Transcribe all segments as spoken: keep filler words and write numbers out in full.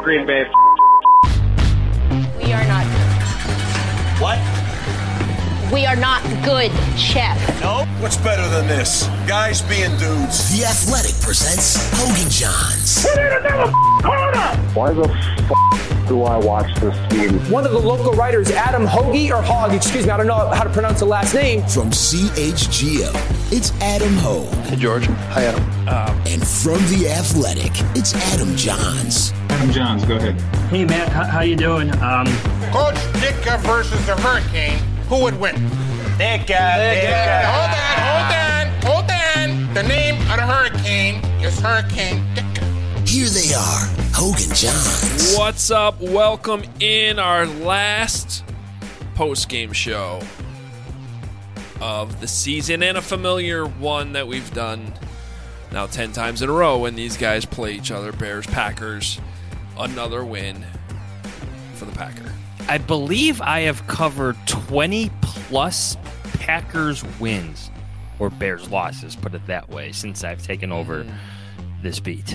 Green Bay. We are not good. What? We are not good, Chef. No? What's better than this? Guys being dudes. The Athletic presents Hogan Johns. We need another corner! Why the f*** do I watch this team? One of the local writers, Adam Hoagie, or Hogg, excuse me, I don't know how to pronounce the last name. From C H G O, it's Adam Hogue. Hey, George. Hi, Adam. Um, and from The Athletic, it's Adam Johns. Adam Johns, go ahead. Hey, Matt, how, how you doing? Um, Coach Ditka versus the Hurricane. Who would win? Ditka. Ditka. Hold on, hold on, hold on. The name of the Hurricane is Hurricane Ditka. Here they are, Hogan Johns. What's up? Welcome in our last post-game show of the season, and a familiar one that we've done now ten times in a row when these guys play each other. Bears, Packers, another win for the Packer. I believe I have covered twenty plus Packers wins or Bears losses, put it that way, since I've taken over mm. this beat.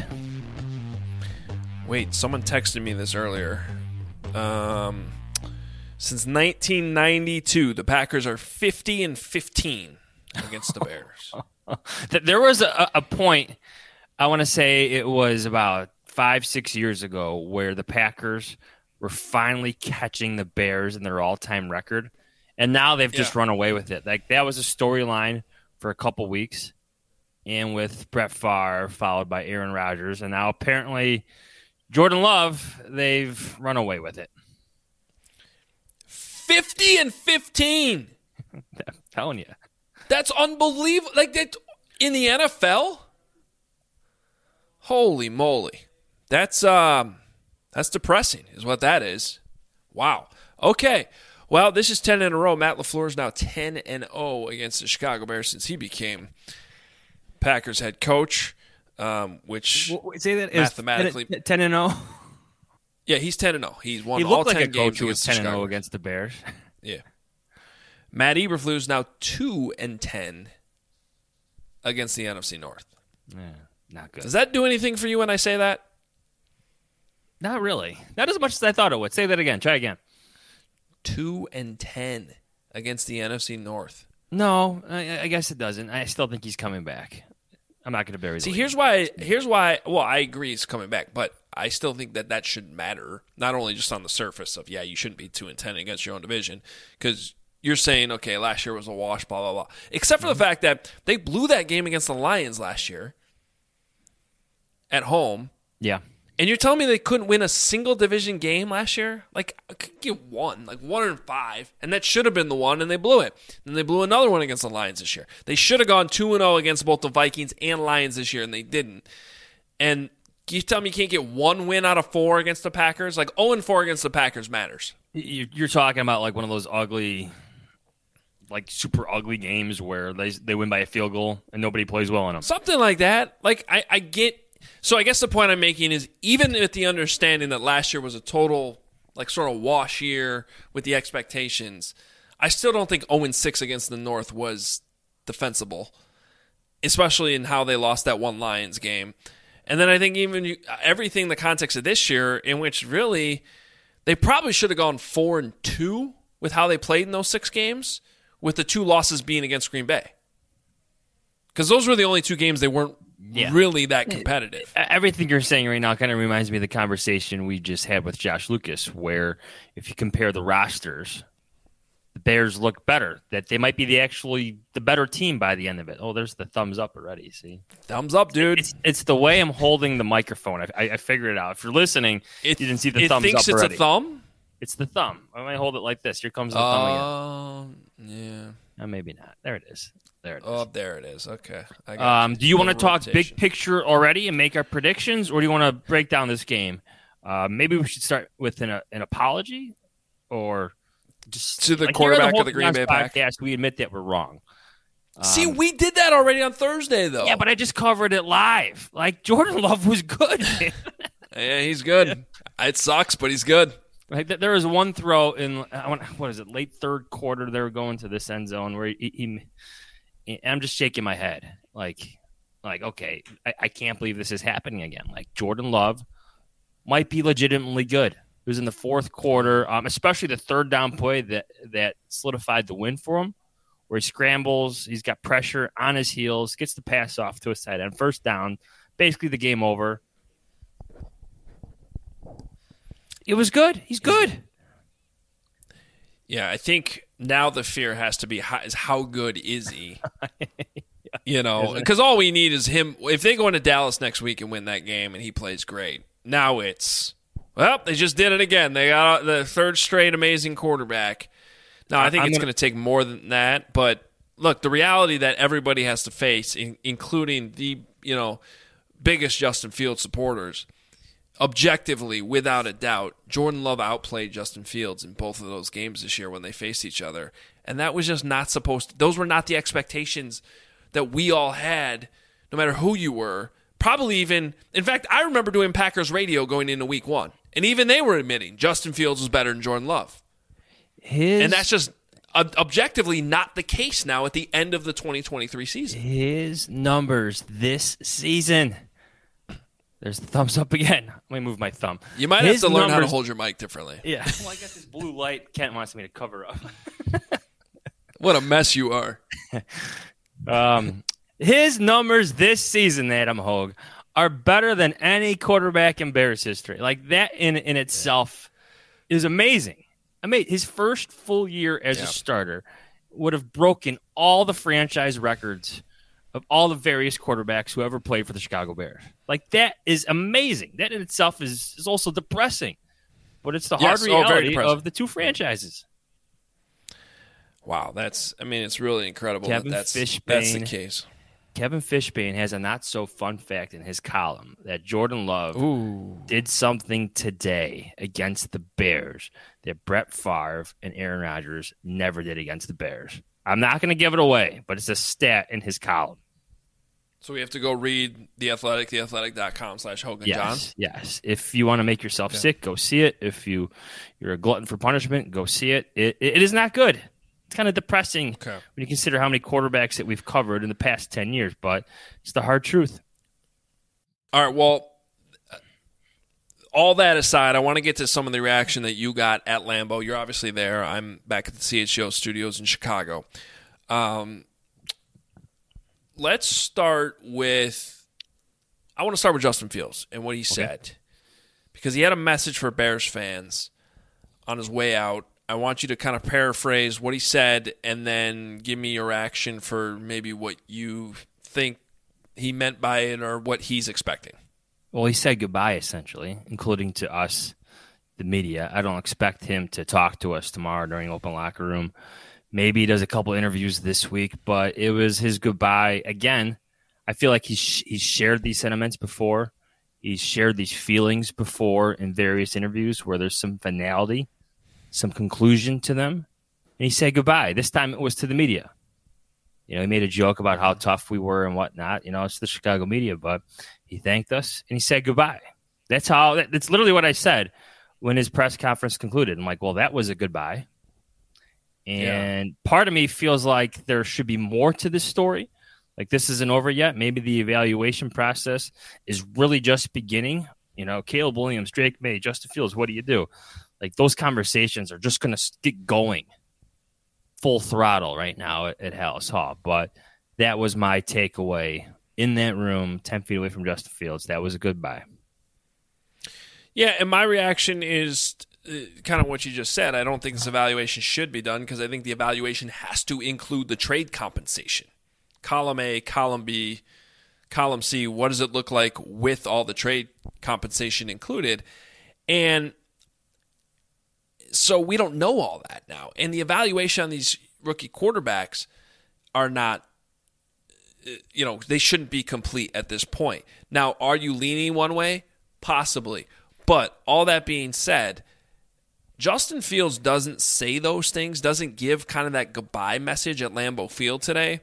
Wait, someone texted me this earlier. Um, since nineteen ninety-two, the Packers are fifty and fifteen against the Bears. There was a, a point, I want to say it was about five, six years ago, where the Packers were finally catching the Bears in their all-time record, and now they've just yeah. run away with it. Like, that was a storyline for a couple weeks, and with Brett Favre followed by Aaron Rodgers, and now apparently Jordan Love, they've run away with it. fifty and fifteen. I'm telling you. That's unbelievable. Like, that in the N F L? Holy moly. That's um that's depressing is what that is. Wow. Okay. Well, this is ten in a row. Matt LaFleur is now ten and oh against the Chicago Bears since he became Packers head coach. Um, which Wait, say that mathematically ten and oh. Yeah, he's ten and oh. He's won he all looked ten like a games coach who was ten and oh Chicago. against the Bears. Yeah. Matt Eberflus is now two and ten against the N F C North. Yeah, not good. Does that do anything for you when I say that? Not really. Not as much as I thought it would. Say that again. Try again. Two and ten against the N F C North. No, I, I guess it doesn't. I still think he's coming back. I'm not going to bury the See, lead. here's why. Here's why. Well, I agree he's coming back, but I still think that that should matter. Not only just on the surface of, yeah, you shouldn't be two and ten against your own division, because you're saying, okay, last year was a wash, blah blah blah. Except for mm-hmm. the fact that they blew that game against the Lions last year at home. Yeah. And you're telling me they couldn't win a single division game last year? Like, I could get one, like one and five, and that should have been the one, and they blew it. And they blew another one against the Lions this year. They should have gone two and oh against both the Vikings and Lions this year, and they didn't. And you tell me you can't get one win out of four against the Packers? Like, oh and four against the Packers matters. You're talking about like one of those ugly, like super ugly games where they they win by a field goal and nobody plays well in them. Something like that. Like, I, I get... So I guess the point I'm making is, even with the understanding that last year was a total, like, sort of wash year with the expectations, I still don't think oh and six against the North was defensible, especially in how they lost that one Lions game. And then I think even you, everything in the context of this year, in which really they probably should have gone four and two with how they played in those six games, with the two losses being against Green Bay. Because those were the only two games they weren't Yeah. really that competitive. Everything you're saying right now kind of reminds me of the conversation we just had with Josh Lucas, where if you compare the rosters, the Bears look better, that they might be the actually the better team by the end of it. Oh, there's the thumbs up already. See, thumbs up, dude. It's, it's the way I'm holding the microphone. I, I, I figured it out. If you're listening, it, you didn't see the it thumbs thinks up it's already. a thumb. It's the thumb. I might hold it like this. Here comes the uh, thumb again. Yeah. Uh, maybe not. There it is. There it is. Oh, there it is. Okay. I got um, you. do you want to talk rotation. big picture already and make our predictions, or do you want to break down this game? Uh, maybe we should start with an, uh, an apology, or just to the like quarterback the of the Green Bay Packers. We admit that we're wrong. Um, See, we did that already on Thursday, though. Yeah, but I just covered it live. Like, Jordan Love was good. Yeah, he's good. It sucks, but he's good. Like, there was one throw in, what is it, late third quarter. They were going to this end zone where he, he I'm just shaking my head. Like, like okay, I, I can't believe this is happening again. Like, Jordan Love might be legitimately good. It was in the fourth quarter, um, especially the third down play that, that solidified the win for him, where he scrambles, he's got pressure on his heels, gets the pass off to a tight end, first down, basically the game over. It was good. He's good. Yeah, I think now the fear has to be how, is how good is he? You know, because all we need is him. If they go into Dallas next week and win that game and he plays great, now it's, well, they just did it again. They got the third straight amazing quarterback. Now, I think I'm it's going to take more than that. But, look, the reality that everybody has to face, in, including the, you know, biggest Justin Fields supporters, objectively, without a doubt, Jordan Love outplayed Justin Fields in both of those games this year when they faced each other. And that was just not supposed to – those were not the expectations that we all had, no matter who you were. Probably even – in fact, I remember doing Packers radio going into week one. And even they were admitting Justin Fields was better than Jordan Love. His, and that's just ob- objectively not the case now at the end of the twenty twenty-three season. His numbers this season. There's the thumbs up again. Let me move my thumb. You might His have to learn numbers, how to hold your mic differently. Yeah. Well, I got this blue light Kent wants me to cover up. What a mess you are. um, his numbers this season, Adam Hogue, are better than any quarterback in Bears history. Like, that in, in itself is amazing. I mean, his first full year as yeah. a starter would have broken all the franchise records of all the various quarterbacks who ever played for the Chicago Bears. Like, that is amazing. That in itself is, is also depressing. But it's the hard yes, reality oh, of the two franchises. Wow, that's, I mean, it's really incredible Kevin that that's, Fishbane, that's the case. Kevin Fishbane has a not-so-fun fact in his column that Jordan Love Ooh. did something today against the Bears that Brett Favre and Aaron Rodgers never did against the Bears. I'm not going to give it away, but it's a stat in his column. So we have to go read The Athletic, theathletic.com slash Hogan yes, John? Yes. If you want to make yourself okay. sick, go see it. If you, you're a glutton for punishment, go see it. It, it is not good. It's kind of depressing okay. when you consider how many quarterbacks that we've covered in the past ten years, but it's the hard truth. All right, well, all that aside, I want to get to some of the reaction that you got at Lambeau. You're obviously there. I'm back at the C H G O studios in Chicago. Um, let's start with – I want to start with Justin Fields and what he okay. said, because he had a message for Bears fans on his way out. I want you to kind of paraphrase what he said and then give me your reaction for maybe what you think he meant by it or what he's expecting. Well, he said goodbye, essentially, including to us, the media. I don't expect him to talk to us tomorrow during open locker room. Maybe he does a couple interviews this week, but it was his goodbye. Again, I feel like he's, he's shared these sentiments before. He's shared these feelings before in various interviews where there's some finality, some conclusion to them, and he said goodbye. This time it was to the media. You know, he made a joke about how tough we were and whatnot. You know, it's the Chicago media, but he thanked us and he said goodbye. That's how. That's literally what I said when his press conference concluded. I'm like, well, that was a goodbye. And yeah. part of me feels like there should be more to this story. Like, this isn't over yet. Maybe the evaluation process is really just beginning. You know, Caleb Williams, Drake May, Justin Fields, what do you do? Like, those conversations are just going to get going full throttle right now at, at Hallis Hall. But that was my takeaway in that room, ten feet away from Justin Fields. That was a goodbye. Yeah, and my reaction is uh, kind of what you just said. I don't think this evaluation should be done because I think the evaluation has to include the trade compensation. Column A, column B, column C, what does it look like with all the trade compensation included? And so we don't know all that now. And the evaluation on these rookie quarterbacks are not, you know, they shouldn't be complete at this point. Now, are you leaning one way? Possibly. But all that being said, Justin Fields doesn't say those things, doesn't give kind of that goodbye message at Lambeau Field today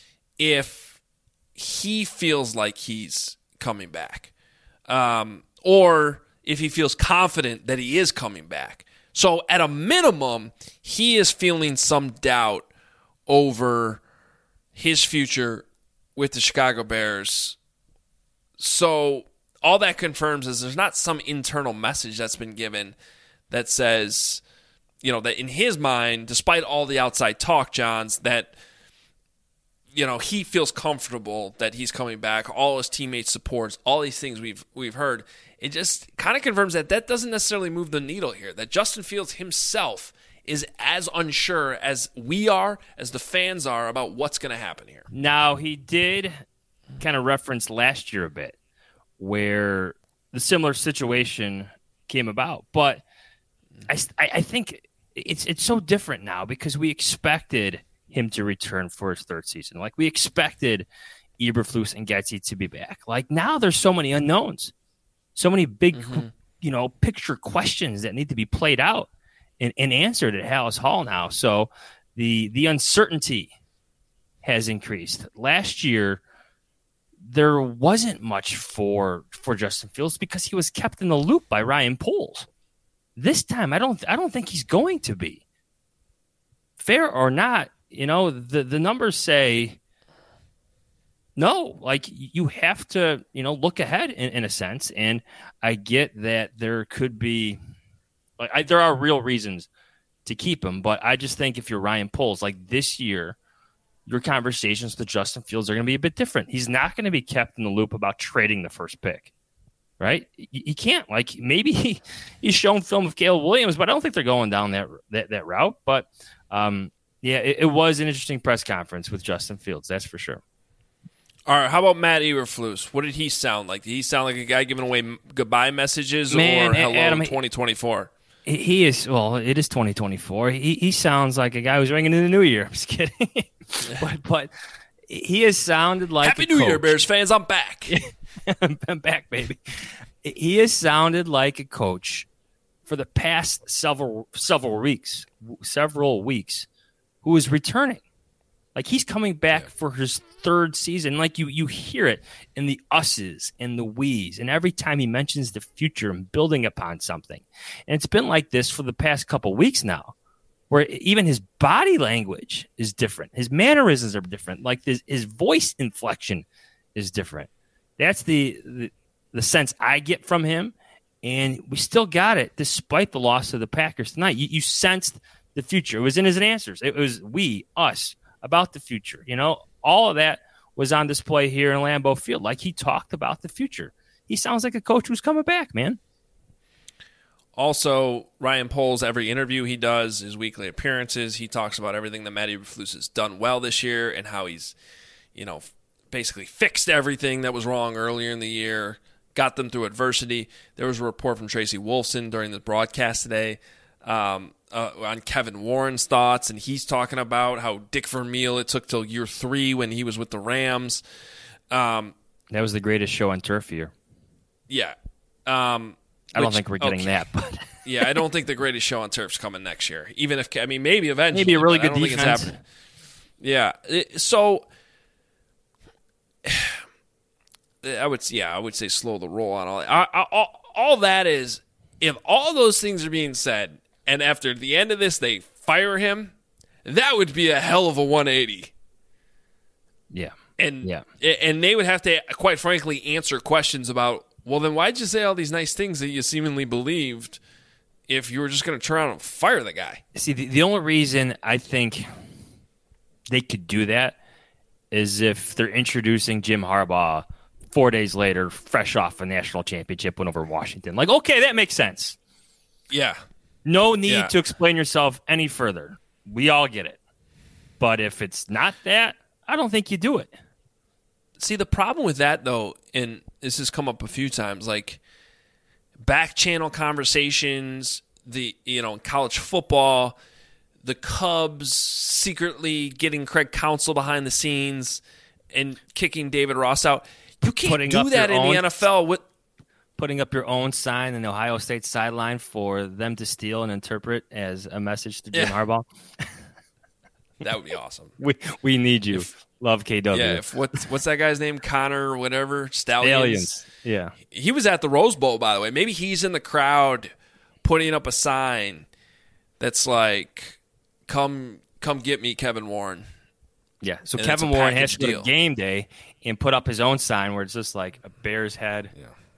if he feels like he's coming back. Um, or if he feels confident that he is coming back. So at a minimum, he is feeling some doubt over his future with the Chicago Bears. So all that confirms is there's not some internal message that's been given that says, you know, that in his mind, despite all the outside talk, Johns, that, you know, he feels comfortable that he's coming back, all his teammates supports, all these things we've we've heard. It just kind of confirms that that doesn't necessarily move the needle here, that Justin Fields himself is as unsure as we are, as the fans are, about what's going to happen here. Now, he did kind of reference last year a bit, where the similar situation came about. But I, I think it's it's so different now because we expected him to return for his third season. Like, we expected Eberflus and Getsy to be back. Like, now there's so many unknowns, so many big, mm-hmm. you know, picture questions that need to be played out and, and answered at Hallis Hall now. So the the uncertainty has increased. Last year, there wasn't much for for Justin Fields because he was kept in the loop by Ryan Poles. This time, I don't I don't think he's going to be. Fair or not, you know, the, the numbers say no. Like, you have to, you know, look ahead in, in a sense. And I get that there could be, like, I, there are real reasons to keep him. But I just think if you're Ryan Poles, like this year, your conversations with Justin Fields are going to be a bit different. He's not going to be kept in the loop about trading the first pick, right? He can't. Like, maybe he, he's shown film of Caleb Williams, but I don't think they're going down that that, that route. But, um, yeah, it, it was an interesting press conference with Justin Fields, that's for sure. All right, how about Matt Eberflus? What did he sound like? Did he sound like a guy giving away goodbye messages Man, or hello Adam, twenty twenty-four? He, he is, well, it is twenty twenty-four. He he sounds like a guy who's ringing in the new year. I'm just kidding. but, but he has sounded like Happy a New coach. Year, Bears fans. I'm back. I'm back, baby. He has sounded like a coach for the past several several weeks, several weeks, who is returning. Like, he's coming back yeah. for his third season. Like, you you hear it in the us's and the we's, and every time he mentions the future and building upon something. And it's been like this for the past couple weeks now, where even his body language is different. His mannerisms are different. Like, his, his voice inflection is different. That's the, the the sense I get from him, and we still got it despite the loss of the Packers tonight. You, you sensed the future. It was in his answers. It was we, us, about the future. You know, all of that was on display here in Lambeau Field. Like, he talked about the future. He sounds like a coach who's coming back, man. Also, Ryan Poles, every interview he does, his weekly appearances, he talks about everything that Matt Eberflus has done well this year and how he's, you know, basically fixed everything that was wrong earlier in the year, got them through adversity. There was a report from Tracy Wolfson during the broadcast today um, uh, on Kevin Warren's thoughts, and he's talking about how Dick Vermeil, it took till year three when he was with the Rams. Um, that was the greatest show on turf year. Yeah. Um, I don't which, think we're getting okay. that, but yeah, I don't think the greatest show on turf's coming next year. Even if, I mean, maybe eventually. Maybe a really good I don't defense. Think it's happening. Yeah. It, so I would, yeah, I would say slow the roll on all that. I, I, all, all that is, if all those things are being said, and after the end of this they fire him, that would be a hell of a one eighty. Yeah. And yeah. and they would have to, quite frankly, answer questions about, well, then why'd you say all these nice things that you seemingly believed if you were just going to turn around and fire the guy? See, the, the only reason I think they could do that is if they're introducing Jim Harbaugh four days later, fresh off a national championship win over Washington. Like, okay, that makes sense. Yeah. No need yeah. to explain yourself any further. We all get it. But if it's not that, I don't think you do it. See, the problem with that, though, and this has come up a few times, like back channel conversations, the you know, college football, the Cubs secretly getting Craig Counsell behind the scenes and kicking David Ross out. You can't putting do that in own, the N F L. With putting up your own sign in the Ohio State sideline for them to steal and interpret as a message to Jim yeah. Harbaugh. That would be awesome. we we need you. If, Love K W. Yeah, if what's what's that guy's name? Connor or whatever? Stallions. Stallions. Yeah. He was at the Rose Bowl, by the way. Maybe he's in the crowd putting up a sign that's like, come come get me, Kevin Warren. Yeah. So and Kevin Warren has to deal. go to game day and put up his own sign where it's just like a bear's head, yeah.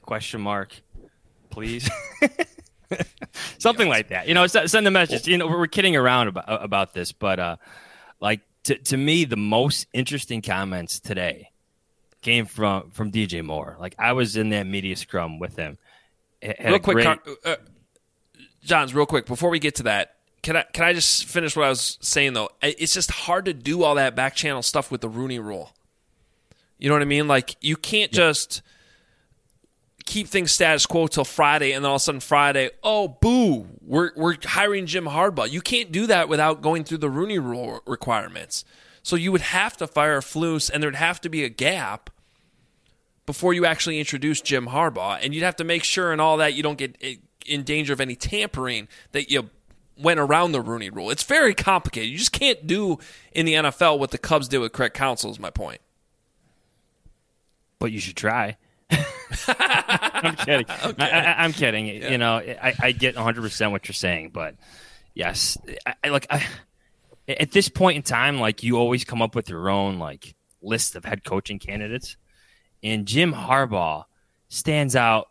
Question mark, please. Something yes. like that. You know, send a message. You know, we're kidding around about about this, but uh, like to to me, the most interesting comments today came from from D J Moore. Like I was in that media scrum with him. Real quick, great... uh, Johns, real quick before we get to that, can I can I just finish what I was saying though? It's just hard to do all that back channel stuff with the Rooney Rule. You know what I mean? Like you can't yeah. just keep things status quo till Friday, and then all of a sudden Friday, oh boo, we're we're hiring Jim Harbaugh. You can't do that without going through the Rooney Rule requirements. So you would have to fire Flus, and there'd have to be a gap before you actually introduce Jim Harbaugh, and you'd have to make sure and all that you don't get in danger of any tampering, that you went around the Rooney Rule. It's very complicated. You just can't do in the N F L what the Cubs did with Craig Counsell is my point. But you should try. I'm kidding. Okay. I, I, I'm kidding. Yeah. You know, I, I get one hundred percent what you're saying, but yes, I, I like I, at this point in time, like you always come up with your own like list of head coaching candidates, and Jim Harbaugh stands out.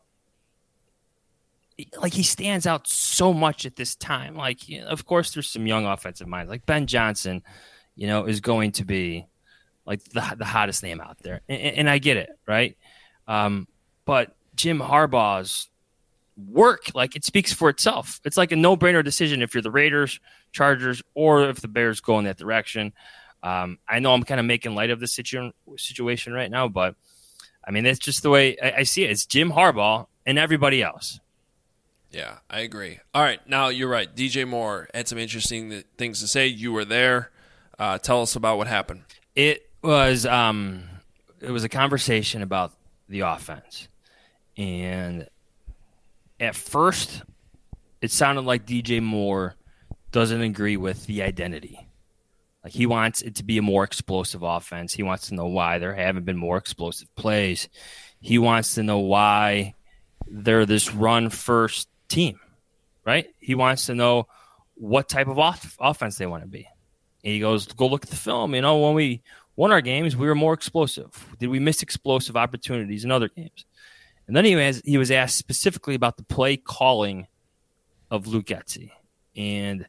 Like he stands out so much at this time. Like, you know, of course, there's some young offensive minds. Like Ben Johnson, you know, is going to be like the the hottest name out there, and, and I get it, right? Um, but Jim Harbaugh's work, like it speaks for itself. It's like a no-brainer decision if you're the Raiders, Chargers, or if the Bears go in that direction. Um, I know I'm kind of making light of the situ- situation right now, but I mean, that's just the way I, I see it. It's Jim Harbaugh and everybody else. Yeah, I agree. All right, now you're right. D J Moore had some interesting things to say. You were there. Uh, tell us about what happened. It was um, it was a conversation about the offense, and at first, it sounded like D J Moore doesn't agree with the identity. Like he wants it to be a more explosive offense. He wants to know why there haven't been more explosive plays. He wants to know why they're this run-first team, right? He wants to know what type of off- offense they want to be. And he goes, go look at the film. You know, when we won our games, we were more explosive. Did we miss explosive opportunities in other games? And then he was, he was asked specifically about the play calling of Luke Getsy. And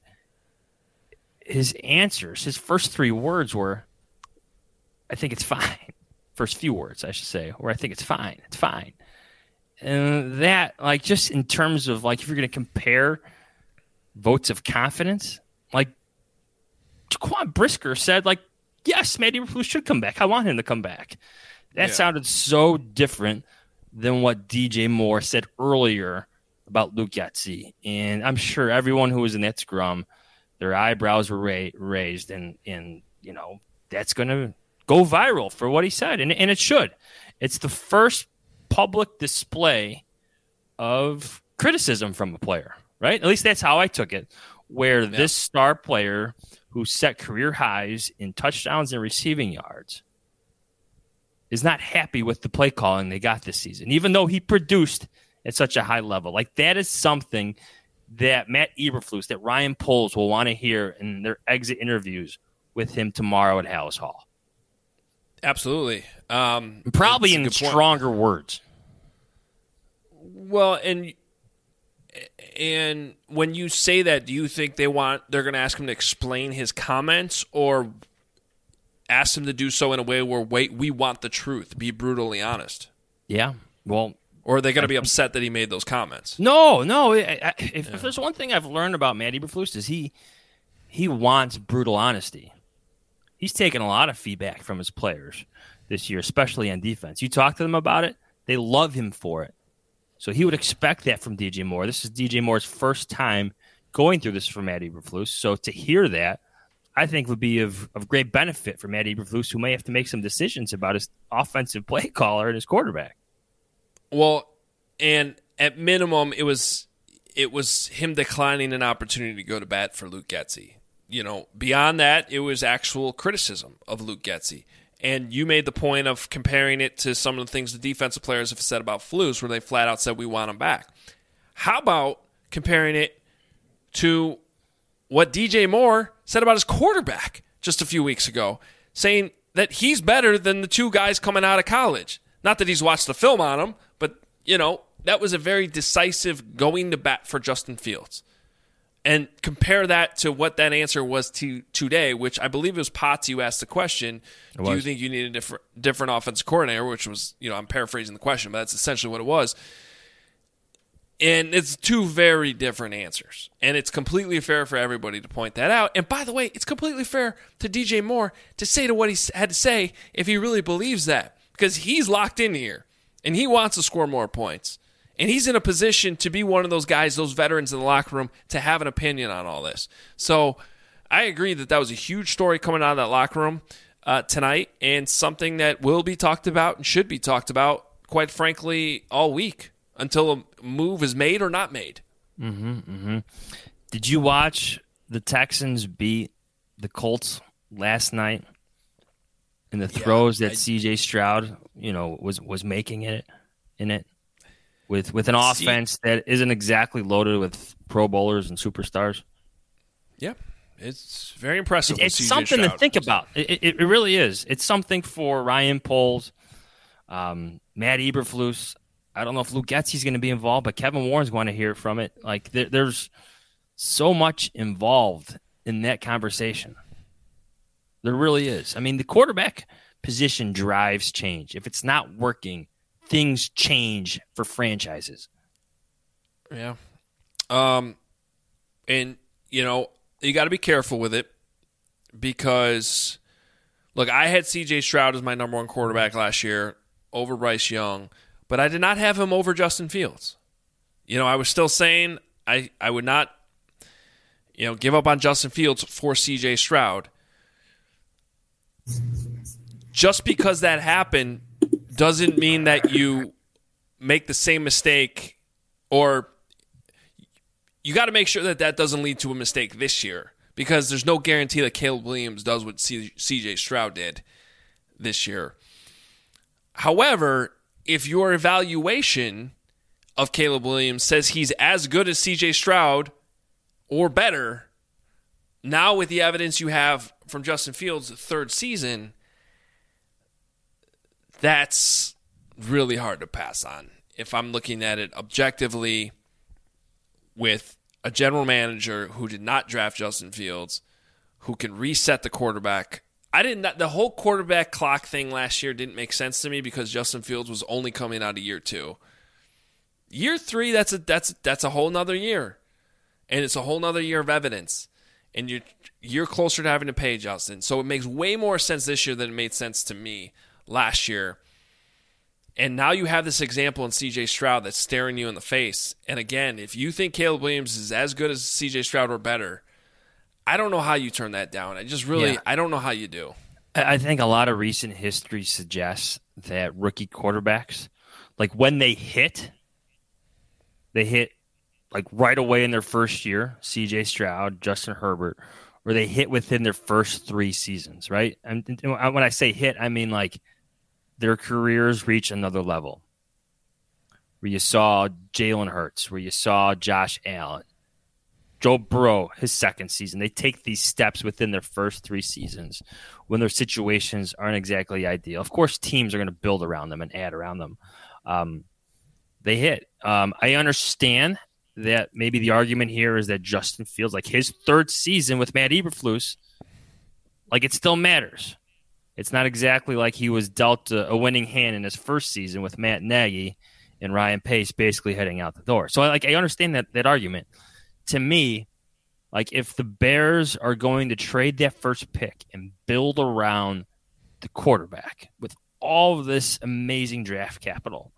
his answers, his first three words were, I think it's fine. First few words, I should say, or I think it's fine. It's fine. And that, like, just in terms of, like, if you're going to compare votes of confidence, like, Jaquan Brisker said, like, yes, Matt Eberflus should come back. I want him to come back. That yeah. sounded so different than what D J Moore said earlier about Luke Getsy. And I'm sure everyone who was in that scrum, their eyebrows were ra- raised, and, and, you know, that's going to go viral for what he said, and, and it should. It's the first public display of criticism from a player, right? At least that's how I took it, where yeah. this star player who set career highs in touchdowns and receiving yards is not happy with the play calling they got this season, even though he produced at such a high level. Like, that is something that Matt Eberflus, that Ryan Poles will want to hear in their exit interviews with him tomorrow at Hallis Hall. Absolutely. Um, Probably in stronger point. words. Well, and and when you say that, do you think they want they're going to ask him to explain his comments, or ask him to do so in a way where wait, we want the truth, be brutally honest? Yeah. Well, or are they going to be upset that he made those comments? No, no. I, I, if, yeah. if there's one thing I've learned about Matt Eberflus is he he wants brutal honesty. He's taken a lot of feedback from his players this year, especially on defense. You talk to them about it, they love him for it. So he would expect that from D J Moore. This is D J Moore's first time going through this for Matt Eberflus. So to hear that, I think would be of, of great benefit for Matt Eberflus, who may have to make some decisions about his offensive play caller and his quarterback. Well, and at minimum, it was it was him declining an opportunity to go to bat for Luke Getsy. You know, beyond that, it was actual criticism of Luke Getsy. And you made the point of comparing it to some of the things the defensive players have said about Flus, where they flat out said, we want him back. How about comparing it to what D J Moore said about his quarterback just a few weeks ago, saying that he's better than the two guys coming out of college? Not that he's watched the film on him, but you know, that was a very decisive going to bat for Justin Fields. And compare that to what that answer was to today, which I believe it was Potts who asked the question, do you think you need a different, different offensive coordinator, which was, you know, I'm paraphrasing the question, but that's essentially what it was. And it's two very different answers. And it's completely fair for everybody to point that out. And by the way, it's completely fair to D J Moore to say to what he had to say if he really believes that. Because he's locked in here. And he wants to score more points. And he's in a position to be one of those guys, those veterans in the locker room, to have an opinion on all this. So I agree that that was a huge story coming out of that locker room uh, tonight. And something that will be talked about and should be talked about, quite frankly, all week. Until a move is made or not made. Mm-hmm, mm-hmm. Did you watch the Texans beat the Colts last night in the throws yeah, that I, C J Stroud, you know, was was making it in it with with an see, offense that isn't exactly loaded with Pro Bowlers and superstars? Yeah, it's very impressive. It, it's C J something Stroud. to think about. It, it, it really is. It's something for Ryan Poles, um, Matt Eberflus. I don't know if Luke Getsy's going to be involved, but Kevin Warren's going to hear from it. Like there, there's so much involved in that conversation. There really is. I mean, the quarterback position drives change. If it's not working, things change for franchises. Yeah. Um, and, you know, you got to be careful with it because, look, I had C J Stroud as my number one quarterback last year over Bryce Young. But I did not have him over Justin Fields. You know, I was still saying I, I would not, you know, give up on Justin Fields for C J Stroud. Just because that happened doesn't mean that you make the same mistake, or you got to make sure that that doesn't lead to a mistake this year, because there's no guarantee that Caleb Williams does what C J Stroud did this year. However, if your evaluation of Caleb Williams says he's as good as C J Stroud or better, now with the evidence you have from Justin Fields' third season, that's really hard to pass on. If I'm looking at it objectively with a general manager who did not draft Justin Fields, who can reset the quarterback. I didn't. The whole quarterback clock thing last year didn't make sense to me because Justin Fields was only coming out of year two. Year three, that's a that's that's a whole nother year, and it's a whole nother year of evidence, and you're you're closer to having to pay Justin. So it makes way more sense this year than it made sense to me last year. And now you have this example in C J Stroud that's staring you in the face. And again, if you think Caleb Williams is as good as C J Stroud or better, I don't know how you turn that down. I just really, yeah. I don't know how you do. I think a lot of recent history suggests that rookie quarterbacks, like when they hit, they hit like right away in their first year, C J Stroud, Justin Herbert, or they hit within their first three seasons, right? And when I say hit, I mean like their careers reach another level. Where you saw Jalen Hurts, where you saw Josh Allen, Joe Burrow, his second season. They take these steps within their first three seasons when their situations aren't exactly ideal. Of course, teams are going to build around them and add around them. Um, they hit. Um, I understand that maybe the argument here is that Justin Fields, like his third season with Matt Eberflus, like it still matters. It's not exactly like he was dealt a, a winning hand in his first season with Matt Nagy and Ryan Pace basically heading out the door. So like I understand that that argument. To me, like if the Bears are going to trade that first pick and build around the quarterback with all of this amazing draft capital,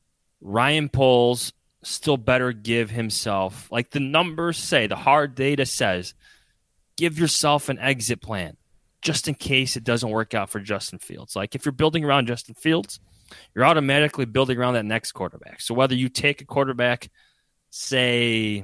Ryan Poles still better give himself, like the numbers say, the hard data says, give yourself an exit plan just in case it doesn't work out for Justin Fields. Like if you're building around Justin Fields, you're automatically building around that next quarterback. So whether you take a quarterback, say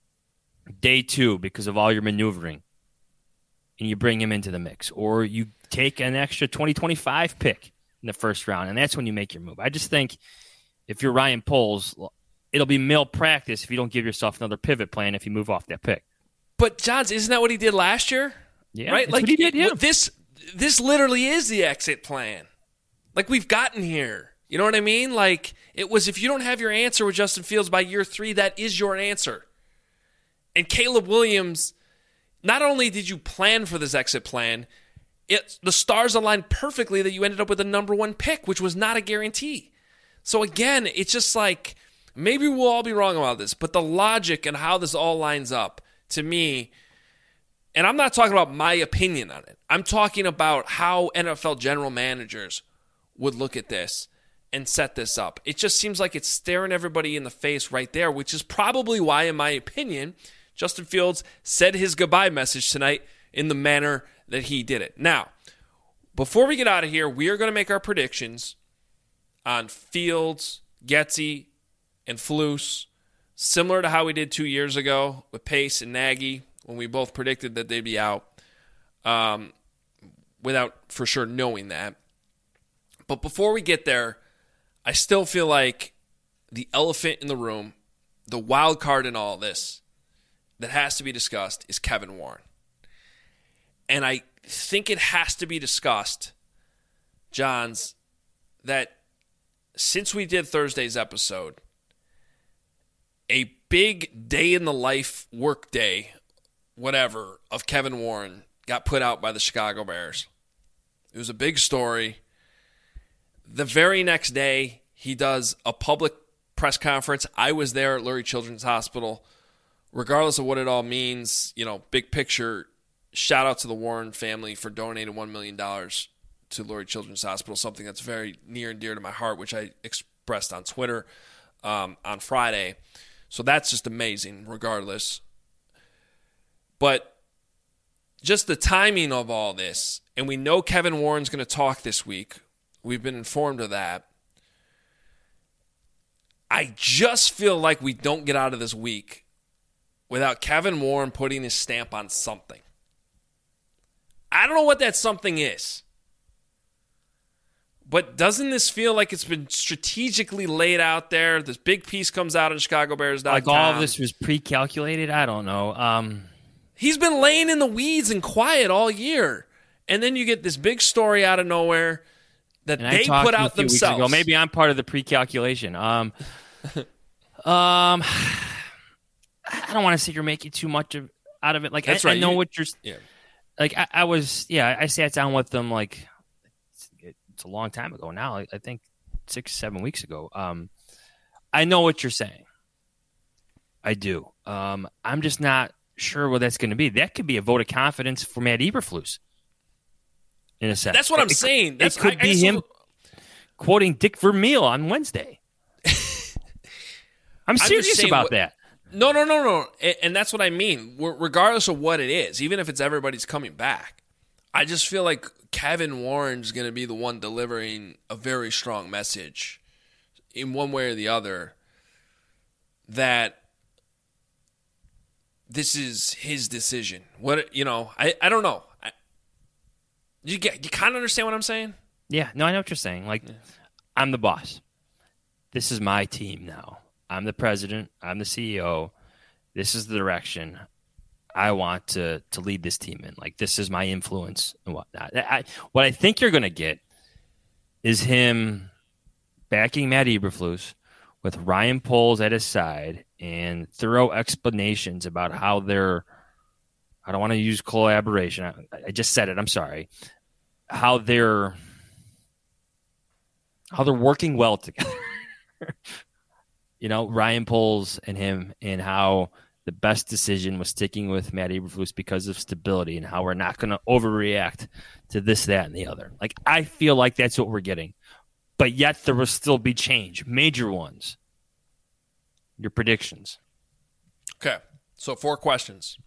day two because of all your maneuvering, and you bring him into the mix, or you take an extra twenty twenty-five pick in the first round, and that's when you make your move. I just think if you're Ryan Poles, it'll be malpractice if you don't give yourself another pivot plan if you move off that pick. But Johns, isn't that what he did last year? Yeah, right. Like what he did. Yeah. This, this literally is the exit plan. Like we've gotten here. You know what I mean? Like, it was, if you don't have your answer with Justin Fields by year three, that is your answer. And Caleb Williams, not only did you plan for this exit plan, it the stars aligned perfectly that you ended up with the number one pick, which was not a guarantee. So again, it's just like, maybe we'll all be wrong about this, but the logic and how this all lines up, to me, and I'm not talking about my opinion on it. I'm talking about how N F L general managers would look at this and set this up. It just seems like it's staring everybody in the face right there, which is probably why, in my opinion, Justin Fields said his goodbye message tonight in the manner that he did it. Now, before we get out of here, we are going to make our predictions on Fields, Getsy, and Flus, similar to how we did two years ago with Pace and Nagy when we both predicted that they'd be out, um, without for sure knowing that. But before we get there, I still feel like the elephant in the room, the wild card in all this that has to be discussed is Kevin Warren. And I think it has to be discussed, Johns, that since we did Thursday's episode, a big day in the life, work day, whatever, of Kevin Warren got put out by the Chicago Bears. It was a big story. The very next day, he does a public press conference. I was there at Lurie Children's Hospital. Regardless of what it all means, you know, big picture, shout out to the Warren family for donating one million dollars to Lurie Children's Hospital, something that's very near and dear to my heart, which I expressed on Twitter um, on Friday. So that's just amazing, regardless. But just the timing of all this, and we know Kevin Warren's going to talk this week. We've been informed of that. I just feel like we don't get out of this week without Kevin Warren putting his stamp on something. I don't know what that something is. But doesn't this feel like it's been strategically laid out there? This big piece comes out on Chicago Bears dot com. Like all of this was pre-calculated? I don't know. Um, He's been laying in the weeds and quiet all year. And then you get this big story out of nowhere that and they put out themselves. Ago. Maybe I'm part of the pre-calculation. Um, um, I don't want to sit here making too much of, out of it. Like That's I, right. I know you, what you're. Yeah. Like I, I was. Yeah, I sat down with them. Like it's, it's a long time ago now. I, I think six, seven weeks ago. Um, I know what you're saying. I do. Um, I'm just not sure what that's going to be. That could be a vote of confidence for Matt Eberflus. In a sense, that's what I'm it, saying. That's, it could I, be I him so, quoting Dick Vermeil on Wednesday. I'm serious saying, about that. No, no, no, no. And, and that's what I mean. Regardless of what it is, even if it's everybody's coming back, I just feel like Kevin Warren's going to be the one delivering a very strong message in one way or the other that this is his decision. What, you know, I, I don't know. I, you get, you kind of understand what I'm saying? Yeah, no, I know what you're saying. Like, yeah. I'm the boss. This is my team now. I'm the president. I'm the C E O. This is the direction I want to to lead this team in. Like, this is my influence and whatnot. I, what I think you're going to get is him backing Matt Eberflus with Ryan Poles at his side and thorough explanations about how they're, I don't want to use collaboration. I, I just said it. I'm sorry. How they're, how they're working well together. You know, Ryan Poles and him, and how the best decision was sticking with Matt Eberflus because of stability, and how we're not going to overreact to this, that, and the other. Like, I feel like that's what we're getting. But yet there will still be change, major ones. Your predictions. Okay, so four questions.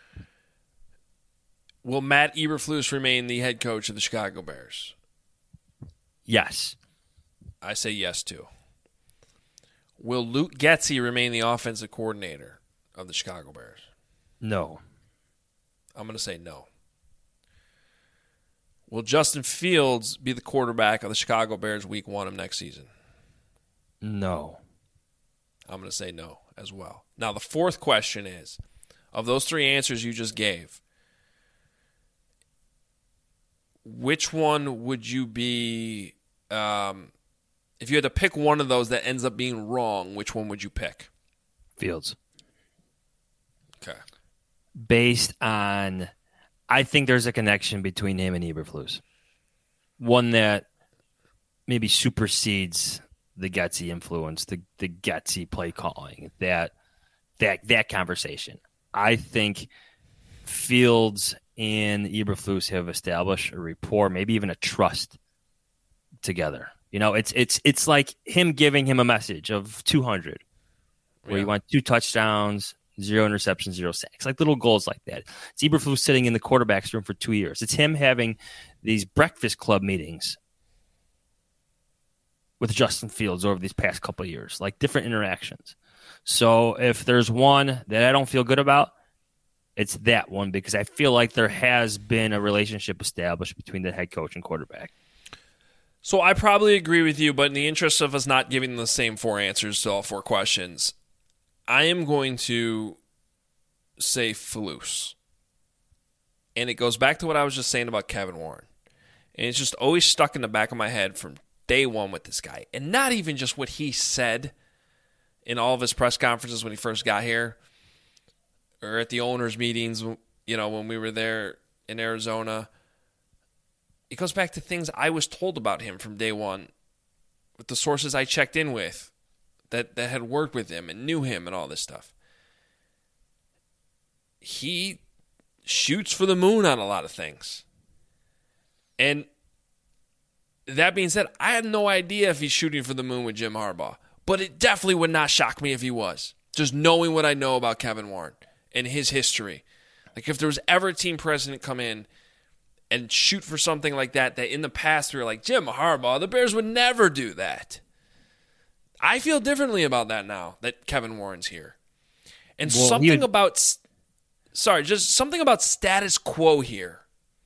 Will Matt Eberflus remain the head coach of the Chicago Bears? Yes. I say yes, too. Will Luke Getsy remain the offensive coordinator of the Chicago Bears? No. I'm going to say no. Will Justin Fields be the quarterback of the Chicago Bears week one of next season? No. I'm going to say no as well. Now, the fourth question is, of those three answers you just gave, which one would you be um, If you had to pick one of those that ends up being wrong, which one would you pick? Fields. Okay. Based on, I think there's a connection between him and Eberflus. One that maybe supersedes the Getsy influence, the the Getsy play calling, that that that conversation. I think Fields and Eberflus have established a rapport, maybe even a trust together. You know, it's it's it's like him giving him a message of two hundred, where yeah. you want two touchdowns, zero interceptions, zero sacks, like little goals like that. It's Eberflus sitting in the quarterback's room for two years. It's him having these breakfast club meetings with Justin Fields over these past couple of years, like different interactions. So if there's one that I don't feel good about, it's that one, because I feel like there has been a relationship established between the head coach and quarterback. So I probably agree with you, but in the interest of us not giving the same four answers to all four questions, I am going to say Flus. And it goes back to what I was just saying about Kevin Warren. And it's just always stuck in the back of my head from day one with this guy. And not even just what he said in all of his press conferences when he first got here, or at the owners' meetings, you know, when we were there in Arizona. It goes back to things I was told about him from day one with the sources I checked in with that, that had worked with him and knew him and all this stuff. He shoots for the moon on a lot of things. And that being said, I had no idea if he's shooting for the moon with Jim Harbaugh. But it definitely would not shock me if he was. Just knowing what I know about Kevin Warren and his history. Like if there was ever a team president come in and shoot for something like that, that in the past we were like, Jim Harbaugh, the Bears would never do that. I feel differently about that now that Kevin Warren's here. And well, something would... about, sorry, just something about status quo here.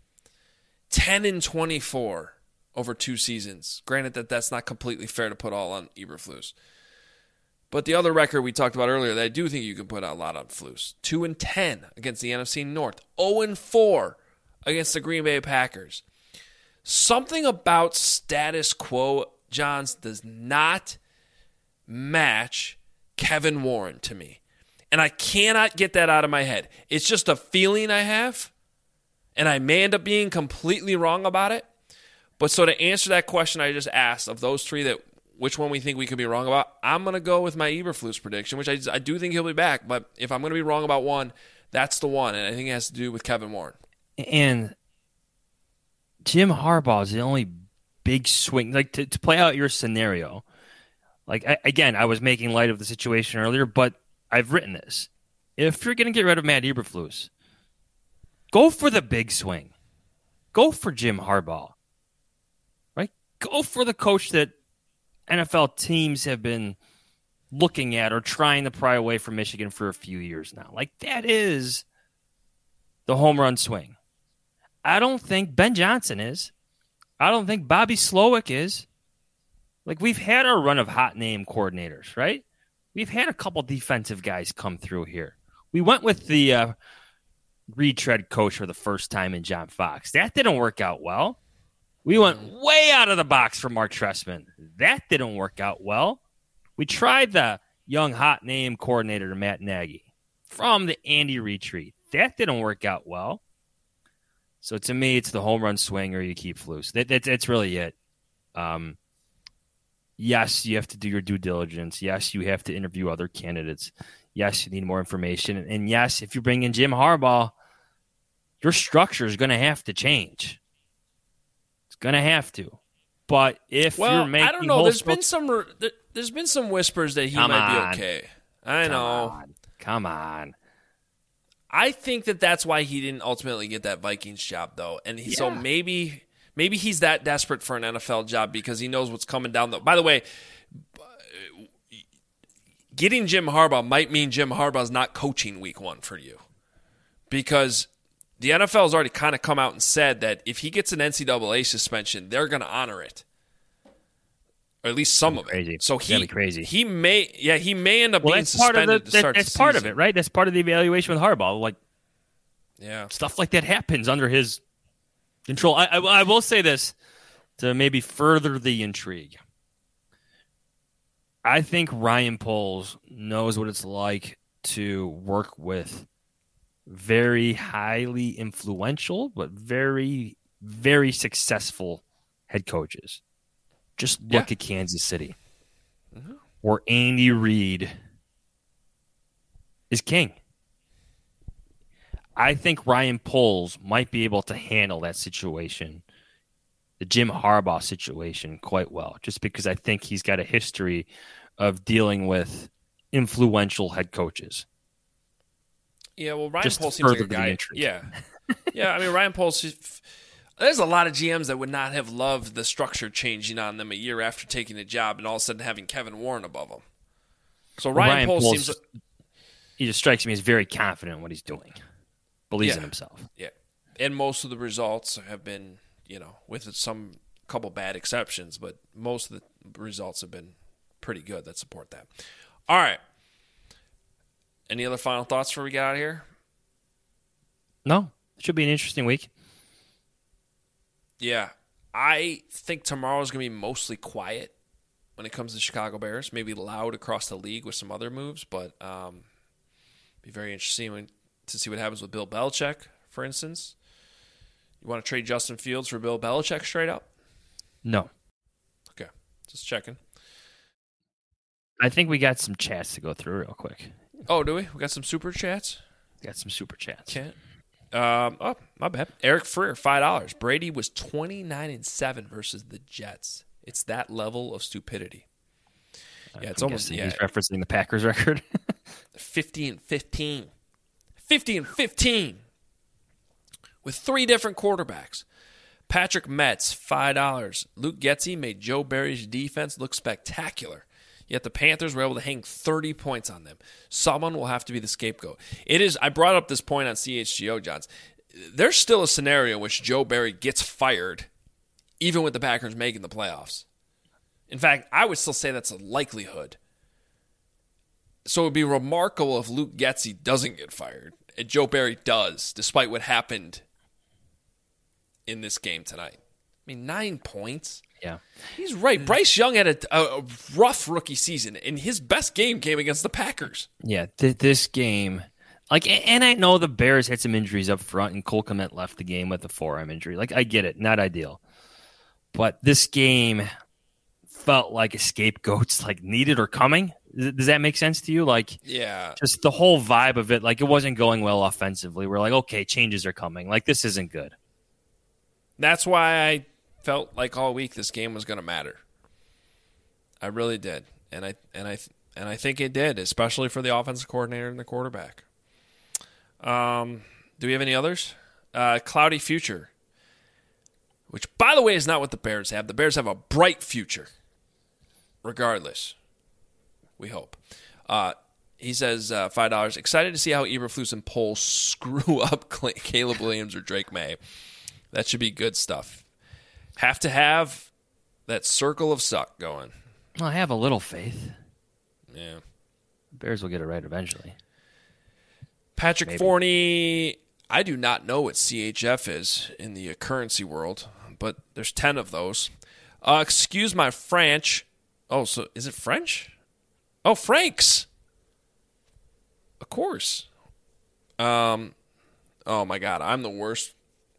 ten and twenty-four over two seasons. Granted that that's not completely fair to put all on Eberflus. But the other record we talked about earlier that I do think you can put a lot on Flus. two and ten against the N F C North. oh and four against the Green Bay Packers. Something about status quo, Johns, does not match Kevin Warren to me. And I cannot get that out of my head. It's just a feeling I have, and I may end up being completely wrong about it. But so to answer that question I just asked, of those three, that which one we think we could be wrong about, I'm going to go with my Eberflus prediction, which I, I do think he'll be back. But if I'm going to be wrong about one, that's the one. And I think it has to do with Kevin Warren. And Jim Harbaugh is the only big swing. Like, to, to play out your scenario, like, I, again, I was making light of the situation earlier, but I've written this. If you're going to get rid of Matt Eberflus, go for the big swing. Go for Jim Harbaugh. Right? Go for the coach that N F L teams have been looking at or trying to pry away from Michigan for a few years now. Like, that is the home run swing. I don't think Ben Johnson is. I don't think Bobby Slowick is. Like, we've had our run of hot name coordinators, right? We've had a couple defensive guys come through here. We went with the uh, retread coach for the first time in John Fox. That didn't work out well. We went way out of the box for Mark Trestman. That didn't work out well. We tried the young hot name coordinator, Matt Nagy, from the Andy Retreat. That didn't work out well. So to me, it's the home run swing or you keep Flus. That, that, that's really it. Um, yes, you have to do your due diligence. Yes, you have to interview other candidates. Yes, you need more information. And yes, if you bring in Jim Harbaugh, your structure is going to have to change. It's going to have to. But if well, you're making I don't know. There's been some. There's been some whispers that he Come might on. be okay. I Come know. on. Come on. I think that that's why he didn't ultimately get that Vikings job, though. And he, Yeah. so maybe maybe he's that desperate for an N F L job because he knows what's coming down the. By the way, getting Jim Harbaugh might mean Jim Harbaugh's not coaching week one for you, because the N F L has already kind of come out and said that if he gets an N C double A suspension, they're going to honor it, or at least some of Crazy. it. So he That'd be crazy. he may yeah he may end up Well, being that's part of suspended the, to start that, that's the part of season. it, right? That's part of the evaluation with Harbaugh. Like, Yeah, stuff like that happens under his control. I, I, I will say this to maybe further the intrigue. I think Ryan Poles knows what it's like to work with very highly influential, but very, very successful head coaches. Just look Yeah. at Kansas City, Mm-hmm. where Andy Reid is king. I think Ryan Poles might be able to handle that situation, the Jim Harbaugh situation, quite well, just because I think he's got a history of dealing with influential head coaches. Yeah, well, Ryan Just Poles seems like a further the guy. intrigue. Yeah, yeah. I mean, Ryan Poles. There's a lot of G Ms that would not have loved the structure changing on them a year after taking the job, and all of a sudden having Kevin Warren above them. So Ryan, Ryan Poles, Poles, seems. he just strikes me as very confident in what he's doing, believes Yeah. in himself. Yeah, and most of the results have been, you know, with some couple bad exceptions, but most of the results have been pretty good that support that. All right. Any other final thoughts before we get out of here? No, it should be an interesting week. Yeah, I think tomorrow's going to be mostly quiet when it comes to Chicago Bears. Maybe loud across the league with some other moves, but um, be very interesting when, to see what happens with Bill Belichick, for instance. You want to trade Justin Fields for Bill Belichick straight up? No. Okay, just checking. I think we got some chats to go through real quick. Oh, do we? We got some super chats? Got some super chats. Can't. Um, oh, my bad. Eric Freer, five dollars. Brady was twenty-nine and seven versus the Jets. It's that level of stupidity. Yeah, it's I'm almost guessing yeah, he's referencing the Packers record. fifty and fifteen. fifty and fifteen. With three different quarterbacks. Patrick Metz, five dollars. Luke Getsy made Joe Barry's defense look spectacular. Yet the Panthers were able to hang thirty points on them. Someone will have to be the scapegoat. It is. I brought up this point on C H G O, Johns. There's still a scenario in which Joe Barry gets fired, even with the Packers making the playoffs. In fact, I would still say that's a likelihood. So it would be remarkable if Luke Getsy doesn't get fired, and Joe Barry does, despite what happened in this game tonight. I mean, nine points. Yeah. He's right. Bryce Young had a, a rough rookie season, and his best game came against the Packers. Yeah, th- this game, like, and I know the Bears had some injuries up front, and Cole Kmet left the game with a forearm injury. Like, I get it, not ideal, but this game felt like a scapegoat's like needed or coming. Does that make sense to you? Like, yeah, just the whole vibe of it. Like, it wasn't going well offensively. We're like, okay, changes are coming. Like, this isn't good. That's why I felt like all week this game was going to matter. I really did, and I and I and I think it did, especially for the offensive coordinator and the quarterback. Um, do we have any others? Uh, cloudy future, which, by the way, is not what the Bears have. The Bears have a bright future, regardless. We hope. Uh, he says uh, five dollars. Excited to see how Eberflus and Poles screw up Caleb Williams or Drake May. That should be good stuff. Have to have that circle of suck going. Well, I have a little faith. Yeah. Bears will get it right eventually. Patrick Maybe. Forney, I do not know what C H F is in the currency world, but there's ten of those. Uh, excuse my French. Oh, so is it French? Oh, Franks. Of course. Um. Oh, my God. I'm the worst.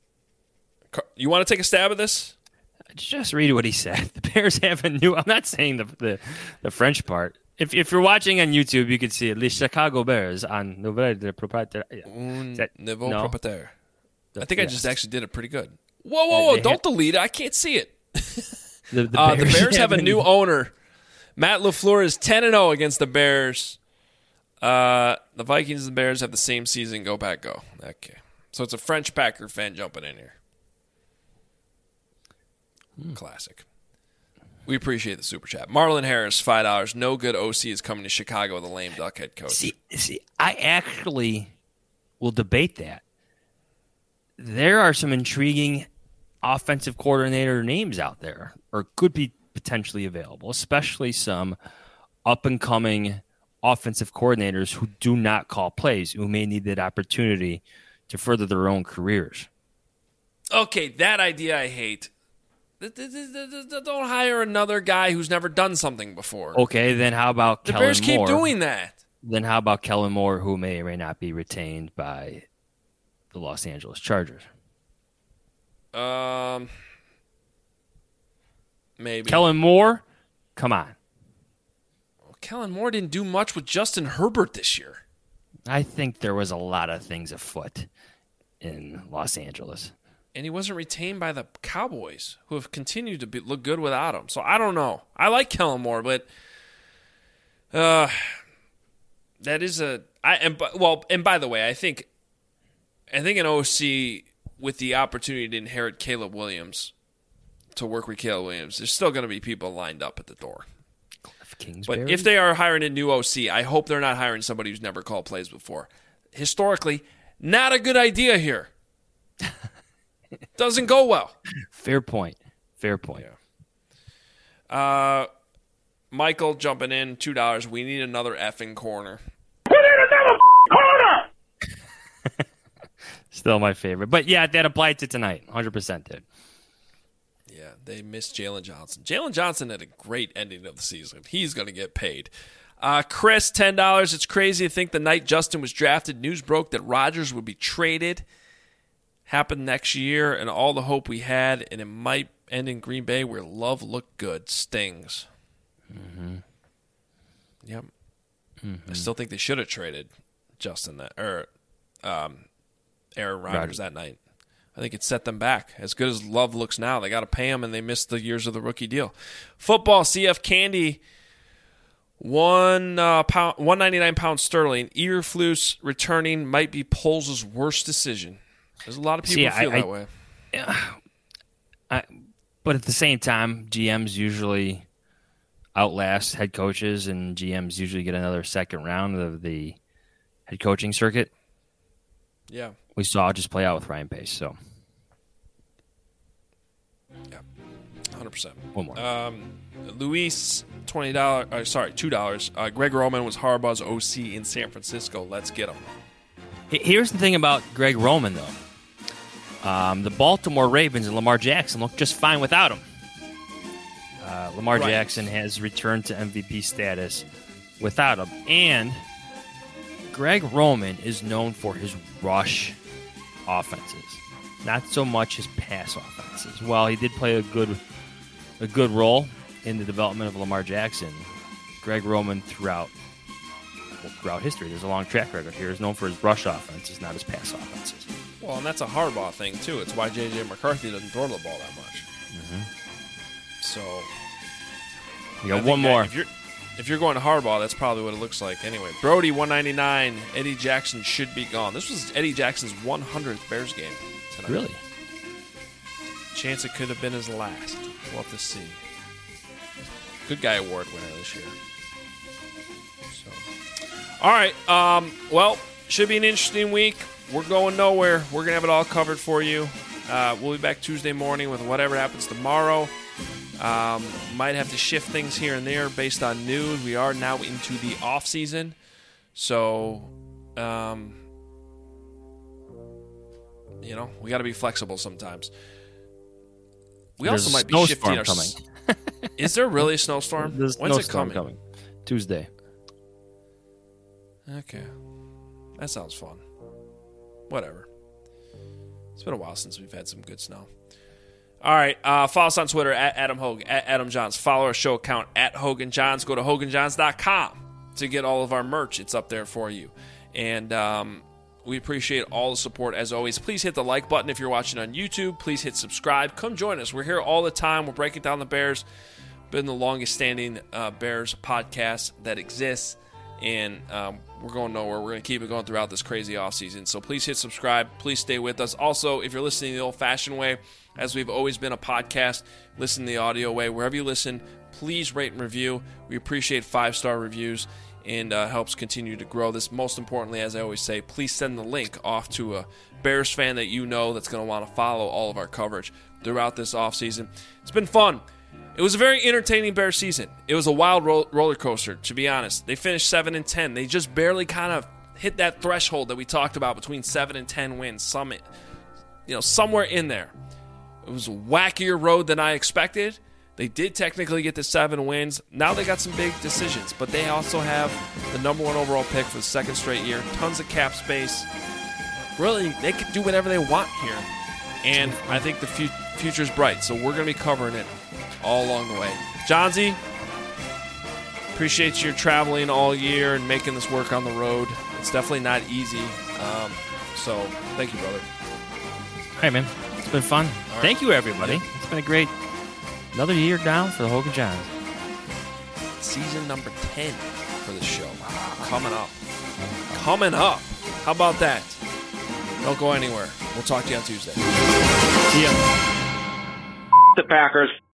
You want to take a stab at this? Just read what he said. The Bears have a new. I'm not saying the the, the French part. If if you're watching on YouTube, you can see it. Les Chicago Bears on Nouvelle de Propriétaire. Un that, nouveau no? propriétaire. I think Yes. I just actually did it pretty good. Whoa, whoa, whoa! They Don't have- delete it. I can't see it. The, the Uh, the Bears, Bears have a a new owner. Matt LaFleur is ten and oh against the Bears. Uh, the Vikings and the Bears have the same season. Go Pack, go. Okay. So it's a French Packer fan jumping in here. Hmm. Classic. We appreciate the super chat. Marlon Harris, five dollars. No good O C is coming to Chicago with a lame duck head coach. See, see, I actually will debate that. There are some intriguing offensive coordinator names out there, or could be potentially available, especially some up-and-coming offensive coordinators who do not call plays, who may need that opportunity to further their own careers. Okay, that idea I hate. Don't hire another guy who's never done something before. Okay, then how about the Kellen Bears keep Moore? doing that? Then how about Kellen Moore, who may or may not be retained by the Los Angeles Chargers? Um, maybe Kellen Moore. Come on. Well, Kellen Moore didn't do much with Justin Herbert this year. I think there was a lot of things afoot in Los Angeles. And he wasn't retained by the Cowboys, who have continued to be, look good without him. So I don't know. I like Kellen Moore, but uh, that is a I and well. And by the way, I think I think an O C with the opportunity to inherit Caleb Williams, to work with Caleb Williams, there's still going to be people lined up at the door. Kingsbury? But if they are hiring a new O C, I hope they're not hiring somebody who's never called plays before. Historically, not a good idea here. Doesn't go well. Fair point. Fair point. Yeah. Uh, Michael jumping in, two dollars. We need another effing corner. We need another corner! Still my favorite. But yeah, that applied to tonight. one hundred percent did. Yeah, they missed Jalen Johnson. Jalen Johnson had a great ending of the season. He's going to get paid. Uh, Chris, ten dollars. It's crazy to think the night Justin was drafted, news broke that Rodgers would be traded. Happened next year, and all the hope we had, and it might end in Green Bay where love looked good. Stings. Mm-hmm. Yep. Mm-hmm. I still think they should have traded Justin that or um, Aaron Rodgers Rodgers. that night. I think it set them back. As good as Love looks now, they got to pay him, and they missed the years of the rookie deal. Football, C F Candy, one uh, pound, one ninety nine pounds sterling. Eberflus returning might be Poles' worst decision. There's a lot of people See, who feel I, that I, way. I, but at the same time, G Ms usually outlast head coaches, and G Ms usually get another second round of the head coaching circuit. Yeah. We saw it just play out with Ryan Pace. So, yeah, one hundred percent. One more. Um, Luis, twenty dollars. Uh, sorry, two dollars. Uh, Greg Roman was Harbaugh's O C in San Francisco. Let's get him. Here's the thing about Greg Roman, though. Um, the Baltimore Ravens and Lamar Jackson look just fine without him. Uh, Lamar Right. Jackson has returned to M V P status without him. And Greg Roman is known for his rush offenses, not so much his pass offenses. While he did play a good a good role in the development of Lamar Jackson, Greg Roman throughout well, throughout history, there's a long track record here, is known for his rush offenses, not his pass offenses. Well, and that's a Harbaugh thing, too. It's why J J. McCarthy doesn't throw the ball that much. Mm-hmm. So, You got I one think that more. If you're, if you're going to Harbaugh, that's probably what it looks like. Anyway, Brody, one ninety-nine. Eddie Jackson should be gone. This was Eddie Jackson's one hundredth Bears game tonight. Really? Chance it could have been his last. We'll have to see. Good Guy Award winner this year. So, all right. Um, well, should be an interesting week. We're going nowhere. We're going to have it all covered for you. Uh, we'll be back Tuesday morning with whatever happens tomorrow. Um, might have to shift things here and there based on news. We are now into the off season, so um, you know we got to be flexible sometimes. We There's also a might be snowstorm shifting our. coming. Is there really a snowstorm? There's a When's it snowstorm coming? coming? Tuesday. Okay, that sounds fun. Whatever. It's been a while since we've had some good snow. All right, uh, follow us on Twitter at Adam Hogan, at Adam Johns. Follow our show account at Hogan Johns. Go to hogan johns dot com to get all of our merch. It's up there for you. And um, we appreciate all the support as always. Please hit the like button if you're watching on YouTube. Please hit subscribe. Come join us. We're here all the time. We're breaking down the Bears. Been the longest standing uh, Bears podcast that exists. And um, we're going nowhere. We're going to keep it going throughout this crazy offseason. So please hit subscribe. Please stay with us. Also, if you're listening the old-fashioned way, as we've always been a podcast, listen the audio way. Wherever you listen, please rate and review. We appreciate five-star reviews and uh, helps continue to grow this. Most importantly, as I always say, please send the link off to a Bears fan that you know that's going to want to follow all of our coverage throughout this offseason. It's been fun. It was a very entertaining Bears season. It was a wild ro- roller coaster, to be honest. They finished seven and ten. They just barely kind of hit that threshold that we talked about between seven and ten wins. Some, you know, somewhere in there. It It was a wackier road than I expected. They did technically get the seven wins. Now they got some big decisions, but they also have the number one overall pick for the second straight year. Tons of cap space. Really, they could do whatever they want here. And I think the fu- future's bright, so we're going to be covering it all along the way. Johnsy, appreciate your traveling all year and making this work on the road. It's definitely not easy. Um, so thank you, brother. All right, man. It's been fun. Right. Thank you, everybody. Yeah. It's been a great another year down for the Hogan Johns. Season number ten for the show. Coming up. Coming up. How about that? Don't go anywhere. We'll talk to you on Tuesday. See ya. The Packers.